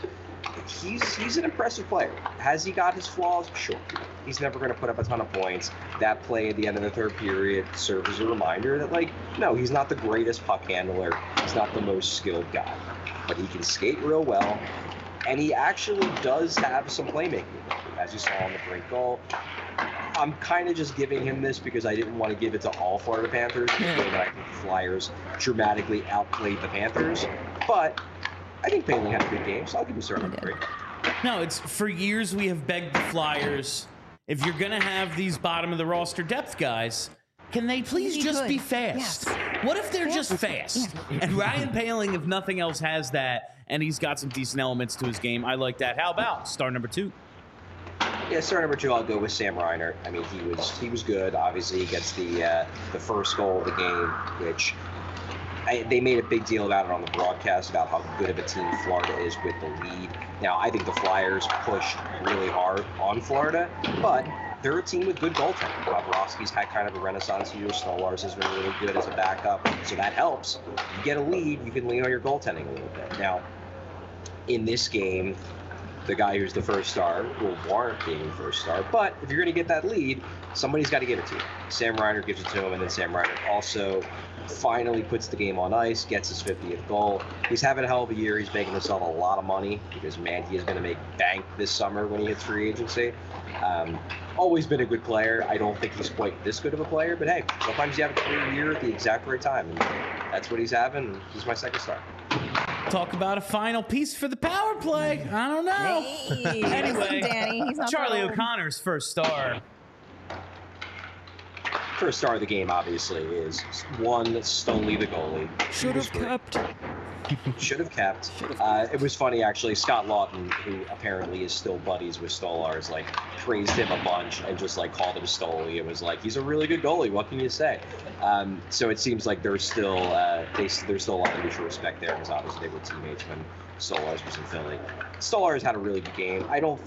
He's an impressive player. Has he got his flaws? Sure. He's never going to put up a ton of points. That play at the end of the 3rd period serves as a reminder that, no, he's not the greatest puck handler. He's not the most skilled guy. But he can skate real well. And he actually does have some playmaking, as you saw on the Brink goal. I'm kind of just giving him this because I didn't want to give it to all Florida Panthers, because I think the Flyers dramatically outplayed the Panthers. But I think Poehling had a good game, so I'll give him star number 3. No, it's for years we have begged the Flyers, if you're going to have these bottom of the roster depth guys, can they please just be fast? Yes. What if they're just fast? Yeah. And Ryan Poehling, if nothing else, has that, and he's got some decent elements to his game. I like that. How about star number 2? Yeah, star number 2, I'll go with Sam Reinhart. I mean, he was good. Obviously, he gets the first goal of the game, which they made a big deal about it on the broadcast about how good of a team Florida is with the lead. Now, I think the Flyers pushed really hard on Florida, but they're a team with good goaltending. Bobrovsky's had kind of a renaissance year. Stolarz has been really good as a backup, so that helps. You get a lead, you can lean on your goaltending a little bit. Now, in this game, the guy who's the first star will warrant being the first star, but if you're going to get that lead, somebody's got to give it to you. Sam Reinhart gives it to him, and then Sam Reinhart also finally puts the game on ice, gets his 50th goal. He's having a hell of a year. He's making himself a lot of money because, man, he is going to make bank this summer when he hits free agency. Always been a good player. I don't think he's quite this good of a player, but hey, sometimes you have a great year at the exact right time, and that's what he's having. He's my second star. Talk about a final piece for the power play. I don't know. Hey, anyway, Danny, he's not Charlie O'Connor's first star. First star of the game, obviously, is one Stoney the goalie. Should have kept. Should have kept. It was funny, actually. Scott Lawton, who apparently is still buddies with Stolarz, like, praised him a bunch and just, like, called him Stoli. It was like, he's a really good goalie. What can you say? So it seems like there's still there's still a lot of mutual respect there, because obviously they were teammates when Stolarz was in Philly. Stolarz had a really good game.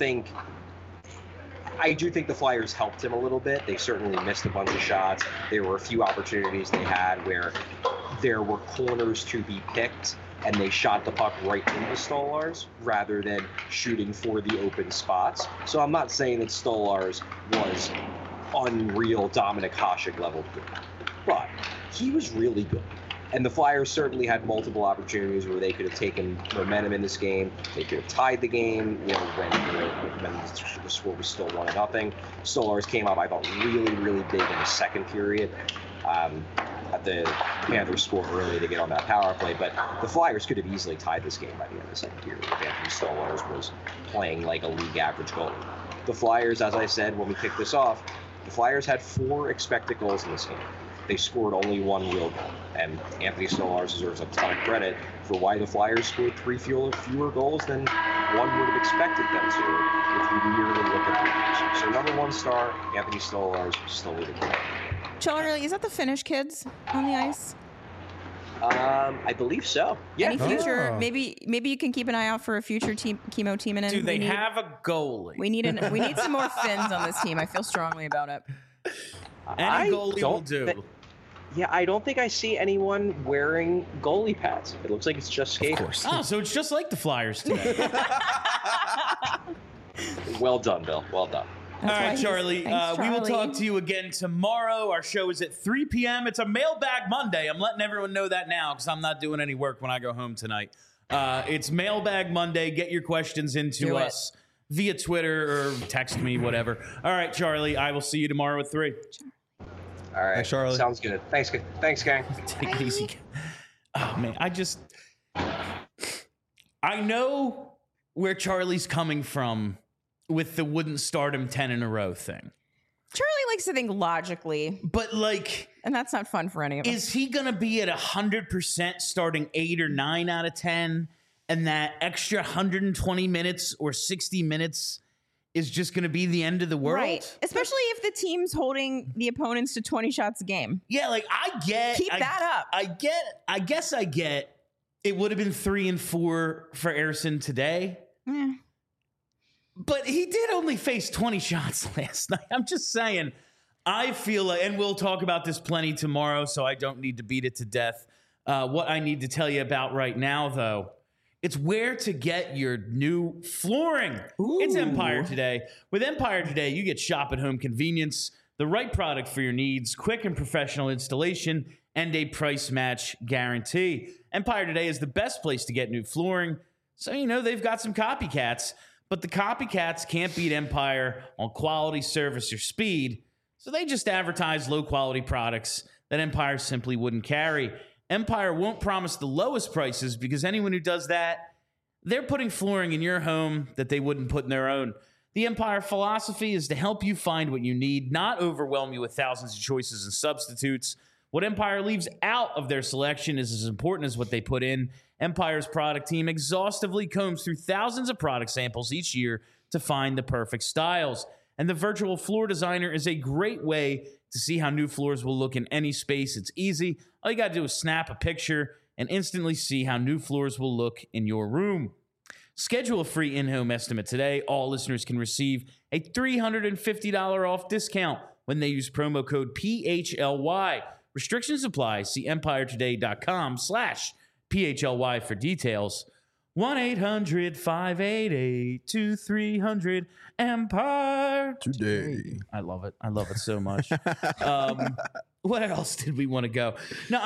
I do think the Flyers helped him a little bit. They certainly missed a bunch of shots. There were a few opportunities they had where there were corners to be picked, and they shot the puck right into Stolarz rather than shooting for the open spots. So I'm not saying that Stolarz was unreal Dominik Hasek level good, but he was really good. And the Flyers certainly had multiple opportunities where they could have taken momentum in this game. They could have tied the game, when the score was still 1-0. Stolarz came up, I thought, really, really big in the second period. The Panthers scored early to get on that power play, but the Flyers could have easily tied this game by the end of the second period if Anthony Stolarz was playing like a league average goalie. The Flyers, as I said when we kicked this off, the Flyers had 4 expected goals in this game. They scored only 1 real goal, and Anthony Stolarz deserves a ton of credit for why the Flyers scored 3 fewer goals than one would have expected them to if you merely look at the numbers. So number 1 star, Anthony Stolarz, Stoli the goal. Charlie, is that the Finnish kids on the ice? I believe so. Yeah. Any future? Maybe you can keep an eye out for a future Chemo team. Do they have a goalie? We need some more Finns on this team. I feel strongly about it. Any goalie will do. Yeah, I don't think I see anyone wearing goalie pads. It looks like it's just skaters. Of course. Oh, so it's just like the Flyers today. Well done, Bill. Well done. All right, Charlie. Thanks, We will Charlie. talk to you again tomorrow. Our show is at 3 p.m. It's a Mailbag Monday. I'm letting everyone know that now because I'm not doing any work when I go home tonight. It's Mailbag Monday. Get your questions into us via Twitter or text me, whatever. All right, Charlie. I will see you tomorrow at 3. All right. Thanks, Charlie. Sounds good. Thanks, gang. Take it easy. Oh, man. I know where Charlie's coming from with the wouldn't start him 10 in a row thing. Charlie likes to think logically, But, like, and that's not fun for any of us. is he going to be at 100% starting 8 or 9 out of 10? And that extra 120 minutes or 60 minutes is just going to be the end of the world? Right. Especially if the team's holding the opponents to 20 shots a game. Yeah, like, Keep that up. I guess I get it would have been 3 and 4 for Ersson today. Yeah. But he did only face 20 shots last night. I'm just saying, I feel like, and we'll talk about this plenty tomorrow, so I don't need to beat it to death. What I need to tell you about right now, though, it's where to get your new flooring. It's Empire Today. With Empire Today, you get shop at home convenience, the right product for your needs, quick and professional installation, and a price match guarantee. Empire Today is the best place to get new flooring. So, they've got some copycats. But the copycats can't beat Empire on quality, service, or speed, so they just advertise low-quality products that Empire simply wouldn't carry. Empire won't promise the lowest prices because anyone who does that, they're putting flooring in your home that they wouldn't put in their own. The Empire philosophy is to help you find what you need, not overwhelm you with thousands of choices and substitutes. What Empire leaves out of their selection is as important as what they put in. Empire's product team exhaustively combs through thousands of product samples each year to find the perfect styles. And the virtual floor designer is a great way to see how new floors will look in any space. It's easy. All you got to do is snap a picture and instantly see how new floors will look in your room. Schedule a free in-home estimate today. All listeners can receive a $350 off discount when they use promo code PHLY. Restrictions apply. See empiretoday.com/PHLY for details. 1-800-588-2300 Empire Today. I love it. I love it so much. What else did we want to go? No,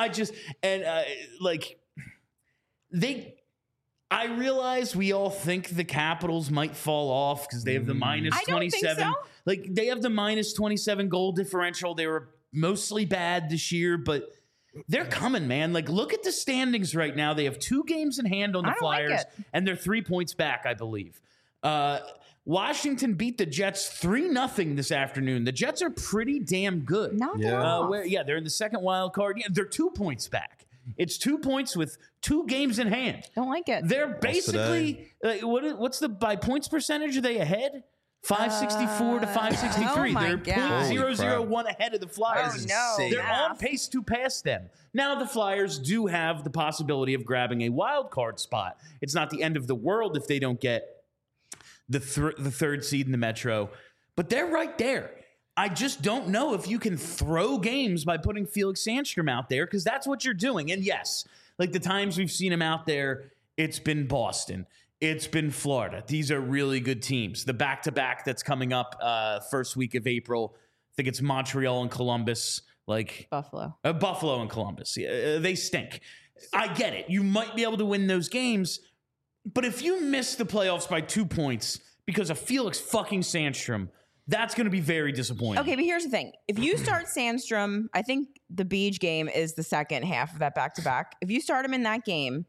I realize we all think the Capitals might fall off because they have the minus I don't 27. think so. Like, they have the minus 27 goal differential. They were mostly bad this year, but they're coming, man. Like, look at the standings right now. They have 2 games in hand on the I don't like Flyers, it. and they're 3 points back, I believe. Washington beat the Jets 3-0 this afternoon. The Jets are pretty damn good. Knock it Yeah. off. They're in the second wild card. Yeah, they're 2 points back. It's 2 points with 2 games in hand. Don't like it. They're basically what's the by points percentage? Are they ahead? 564 to 563. oh my They're God. 0.001 ahead of the Flyers. That is no. insane. They're on pace to pass them. Now the Flyers do have the possibility of grabbing a wild card spot. It's not the end of the world if they don't get the third seed in the Metro, but they're right there. I just don't know if you can throw games by putting Felix Sandstrom out there, because that's what you're doing. And yes, like the times we've seen him out there, it's been Boston. It's been Florida. These are really good teams. The back-to-back that's coming up first week of April, I think it's Montreal and Columbus. Buffalo. Buffalo and Columbus. They stink. I get it. You might be able to win those games, but if you miss the playoffs by 2 points because of Felix fucking Sandstrom, that's going to be very disappointing. Okay, but here's the thing. If you start Sandstrom, I think the Beach game is the second half of that back-to-back. If you start him in that game,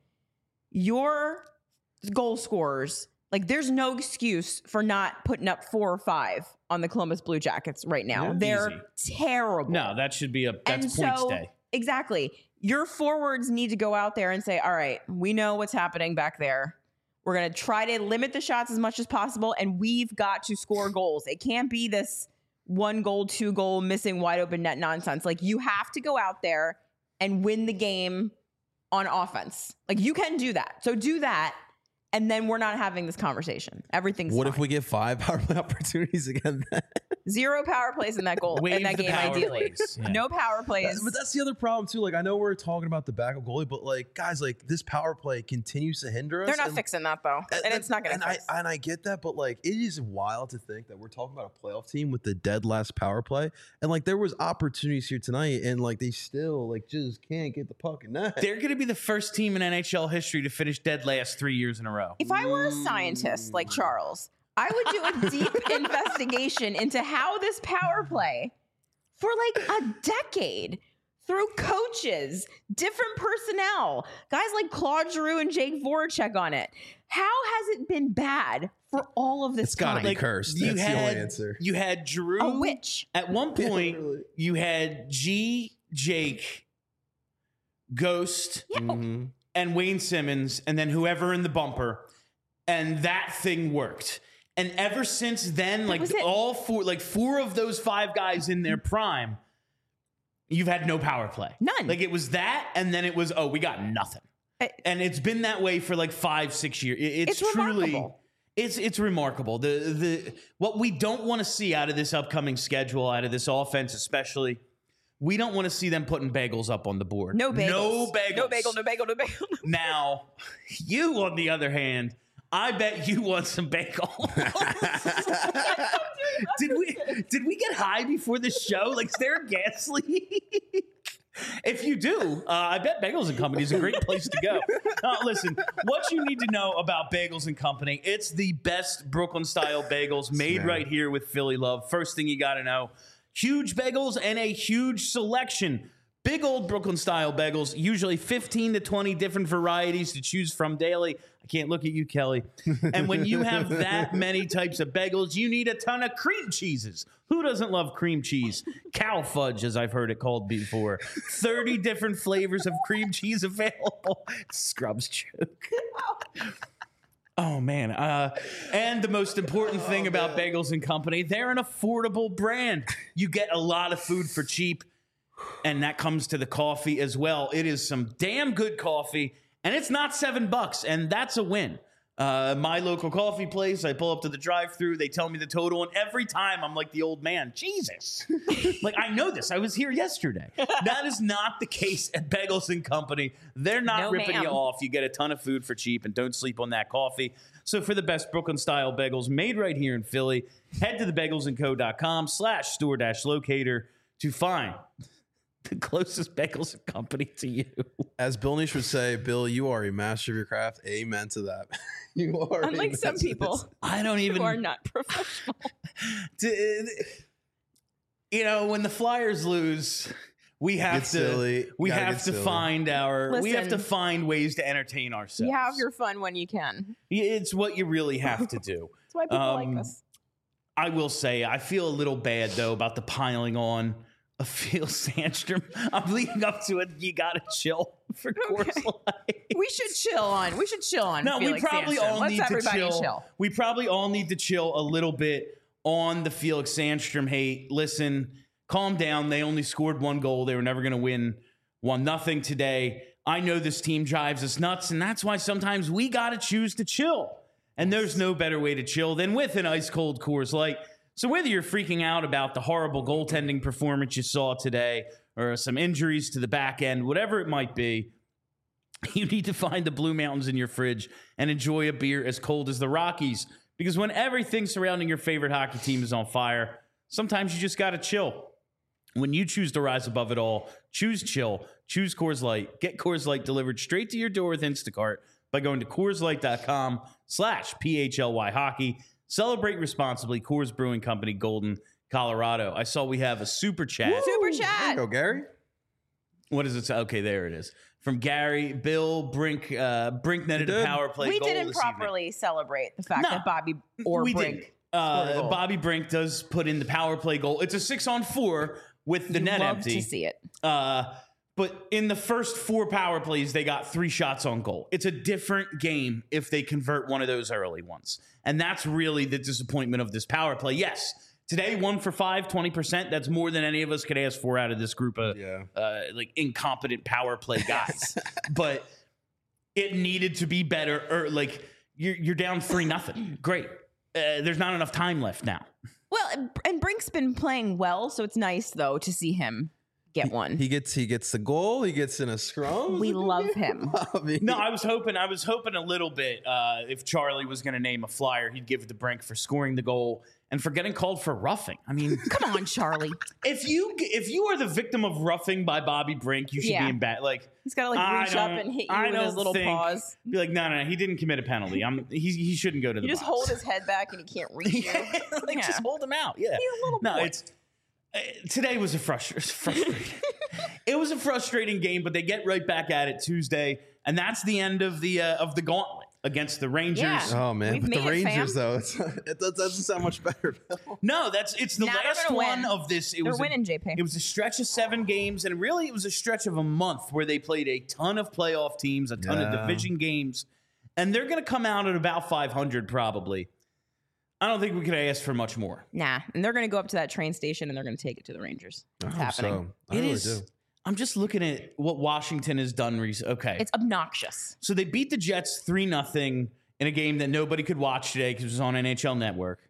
your goal scorers, like there's no excuse for not putting up 4 or 5 on the Columbus Blue Jackets right now. Yeah, they're terrible. No, that should be that's And points so, day. Exactly. Your forwards need to go out there and say, all right, we know what's happening back there. We're going to try to limit the shots as much as possible, and we've got to score goals. It can't be this 1 goal, 2 goal, missing wide open net nonsense. Like, you have to go out there and win the game on offense. Like, you can do that. So do that, and then we're not having this conversation. Everything's What fine. if we get 5 power play opportunities again? 0 power plays in that goal, Waive in that the game, power ideally. plays. Yeah. No power plays. But that's the other problem too. Like I know we're talking about the backup goalie, but like guys, like this power play continues to hinder us. They're not and- fixing that, though. And it's not going to fix. I get that, but like it is wild to think that we're talking about a playoff team with the dead last power play, and like there was opportunities here tonight, and like they still like just can't get the puck in net. They're going to be the first team in NHL history to finish dead last 3 years in a row. If I were a scientist like Charles, I would do a deep investigation into how this power play for like a decade through coaches, different personnel, guys like Claude Giroux and Jake Voracek on it. How has it been bad for all of this It's got to time? be cursed. That's the only answer. You had Drew. A witch. At one point, literally. you had Jake, Ghost, Mhm. and Wayne Simmons, and then whoever in the bumper, and that thing worked. And ever since then, like was it. all 4 of those 5 guys in their prime, you've had no power play. None. Like it was that, and then it was, oh, we got nothing. And it's been that way for like 5-6 years. It's truly, remarkable. it's remarkable. The what we don't want to see out of this upcoming schedule, out of this offense, especially, we don't want to see them putting bagels up on the board. No bagels. No bagels. No bagel, no bagel, no bagel. Now, you on the other hand, I bet you want some bagel. Did we get high before the show? Like, is there a gas leak? If you do, I bet Bagels and Company is a great place to go. Listen, what you need to know about Bagels and Company, it's the best Brooklyn-style bagels made right here with Philly love. First thing you got to know, huge bagels and a huge selection. Big old Brooklyn-style bagels, usually 15 to 20 different varieties to choose from daily. I can't look at you, Kelly. And when you have that many types of bagels, you need a ton of cream cheeses. Who doesn't love cream cheese? Cow fudge, as I've heard it called before. 30 different flavors of cream cheese available. Scrubs joke. Oh, man. And the most important thing about Bagels and Company, they're an affordable brand. You get a lot of food for cheap. And that comes to the coffee as well. It is some damn good coffee, and it's not $7, and that's a win. My local coffee place, I pull up to the drive-thru, they tell me the total, and every time I'm like the old man, Jesus. Like, I know this. I was here yesterday. That is not the case at Bagels and Company. They're not No, ripping ma'am. you off. You get a ton of food for cheap, and don't sleep on that coffee. So for the best Brooklyn-style bagels made right here in Philly, head to thebagelsandco.com/store-locator to find the closest Bagels and Company to you. As Bill Nish would say, Bill, you are a master of your craft. Amen to that. You are. Unlike amen some to people this. I don't even who are not professional. You know, when the Flyers lose, we have Get silly. we Gotta have get to silly. find we have to Listen. find ways to entertain ourselves. You have your fun when you can. It's what you really have to do. That's why people like us. I will say, I feel a little bad though about the piling on of Phil Sandstrom. I'm leading up to it. You gotta chill. for Coors Light. We should chill on. No, Felix we probably Sandstrom. all Let's need to everybody chill. We probably all need to chill a little bit on the Felix Sandstrom hate. Listen, calm down. They only scored 1 goal. They were never going to win 1-0 today. I know this team drives us nuts, and that's why sometimes we got to choose to chill. And there's no better way to chill than with an ice-cold Coors Light. So whether you're freaking out about the horrible goaltending performance you saw today or some injuries to the back end, whatever it might be, you need to find the Blue Mountains in your fridge and enjoy a beer as cold as the Rockies. Because when everything surrounding your favorite hockey team is on fire, sometimes you just got to chill. When you choose to rise above it all, choose chill, choose Coors Light. Get Coors Light delivered straight to your door with Instacart by going to CoorsLight.com/PHLY hockey. Celebrate responsibly. Coors Brewing Company, Golden, Colorado. I saw we have a super chat. Super There you chat. go, Gary. What does it say? Okay, there it is. From Gary, Bill Brink netted a power play We goal didn't this properly celebrate the fact No, that Bobby or we Brink didn't. scored a goal. Bobby Brink does put in the power play goal. It's a 6-on-4 with the net Love empty. to see it. But in the first 4 power plays, they got 3 shots on goal. It's a different game if they convert one of those early ones. And that's really the disappointment of this power play. Yes, today 1 for 5, 20%. That's more than any of us could ask for out of this group of like incompetent power play guys. But it needed to be better. Or like you're down 3-0. Great. There's not enough time left now. Well, and Brink's been playing well, so it's nice though to see him get one. He gets the goal. He gets in a scrum. We love him. No, I was hoping a little bit if Charlie was going to name a Flyer, he'd give it to Brink for scoring the goal and for getting called for roughing. I mean, Come on, Charlie. if you are the victim of roughing by Bobby Brink, you should be in bad. Like He's got to like reach up and hit you with his little paws. Be like, no, he didn't commit a penalty. He shouldn't go to the You just box. hold his head back and he can't reach you. Like, Yeah. just hold him out. Yeah. He's a little boy. It's today was a frustrating. It was a frustrating game, but they get right back at it Tuesday, and that's the end of the gauntlet against the Rangers. Yeah. Oh man, We've but the made it, Rangers fam. though, it doesn't sound much better. Bill. No, it's the Nah, they're last gonna one win. of this. They're winning, JP. It was a stretch of 7 games, and really it was a stretch of a month where they played a ton of playoff teams, a ton of division games, and they're going to come out at about 500 probably. I don't think we could ask for much more. Nah, and they're going to go up to that train station and they're going to take it to the Rangers. It's happening. I really do. I'm just looking at what Washington has done recently. Okay. It's obnoxious. So they beat the Jets 3-0 in a game that nobody could watch today because it was on NHL Network.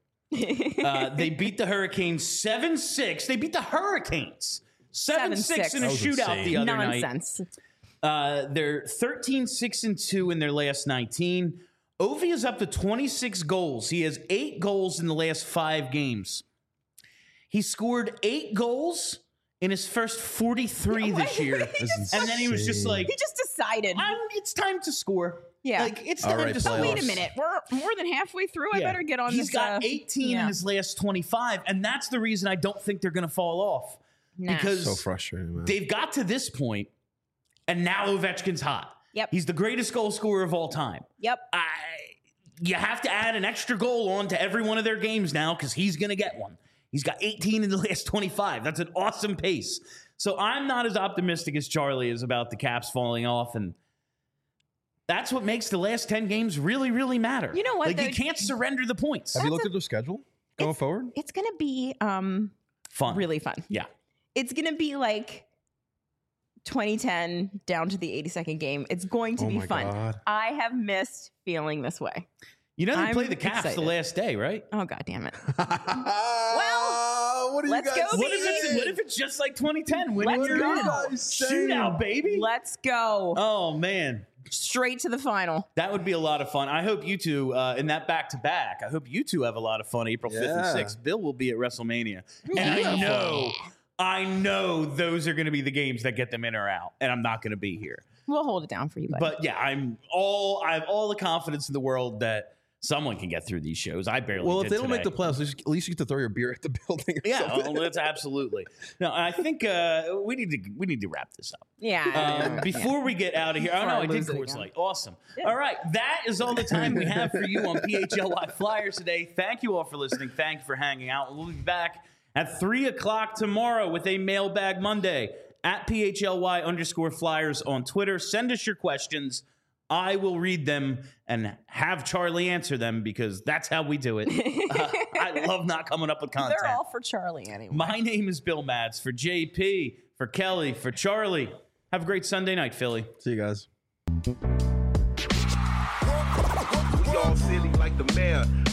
They beat the Hurricanes 7-6. They beat the Hurricanes 7-6 in a That was shootout insane. the other night. Nonsense. They're 13-6-2 in their last 19. Ovi is up to 26 goals. He has 8 goals in the last 5 games. He scored 8 goals in his first 43 this year. And then he was just like, He just decided. it's time to score. Yeah. Like, it's All time right, to playoffs. score. Wait a minute. We're more than halfway through. I Yeah. better get on He's this. got 18 in his last 25, and that's the reason I don't think they're going to fall off. Nah. Because So frustrating, man. they've got to this point, and now Ovechkin's hot. Yep. He's the greatest goal scorer of all time. Yep. You have to add an extra goal on to every one of their games now because he's going to get one. He's got 18 in the last 25. That's an awesome pace. So I'm not as optimistic as Charlie is about the Caps falling off, and that's what makes the last 10 games really, really matter. You know what, Like, though? you can't surrender the points. Have you looked at their schedule going forward? It's going to be Fun. really fun. Yeah. It's going to be like 2010 down to the 82nd game. It's going to Oh be my fun. God. I have missed feeling this way. You know they I'm play the Caps excited. the last day, right? Oh, God damn it. Well, what are you let's guys go, What baby. if it's just like 2010? When Let's you're go. in shootout, baby. Let's go. Oh, man. Straight to the final. That would be a lot of fun. I hope you two, in that back-to-back, I hope you two have a lot of fun April 5th and Yeah. 6th. Bill will be at WrestleMania. And I know those are going to be the games that get them in or out, and I'm not going to be here. We'll hold it down for you, buddy. But yeah, I have all the confidence in the world that someone can get through these shows. I barely Well, did if they don't today. make the playoffs, at least you get to throw your beer at the building. Or Yeah, something. well, that's absolutely. No, I think we need to wrap this up. yeah. Before we get out of here, oh Before no, I I did lose it Coors again. Light. Awesome. All right, that is all the time we have for you on PHLY Flyers today. Thank you all for listening. Thank you for hanging out. We'll be back at 3 o'clock tomorrow with a Mailbag Monday. at PHLY_Flyers on Twitter. Send us your questions. I will read them and have Charlie answer them because that's how we do it. I love not coming up with content. They're all for Charlie anyway. My name is Bill Mads. For JP, for Kelly, for Charlie. Have a great Sunday night, Philly. See you guys. We all silly like the mayor.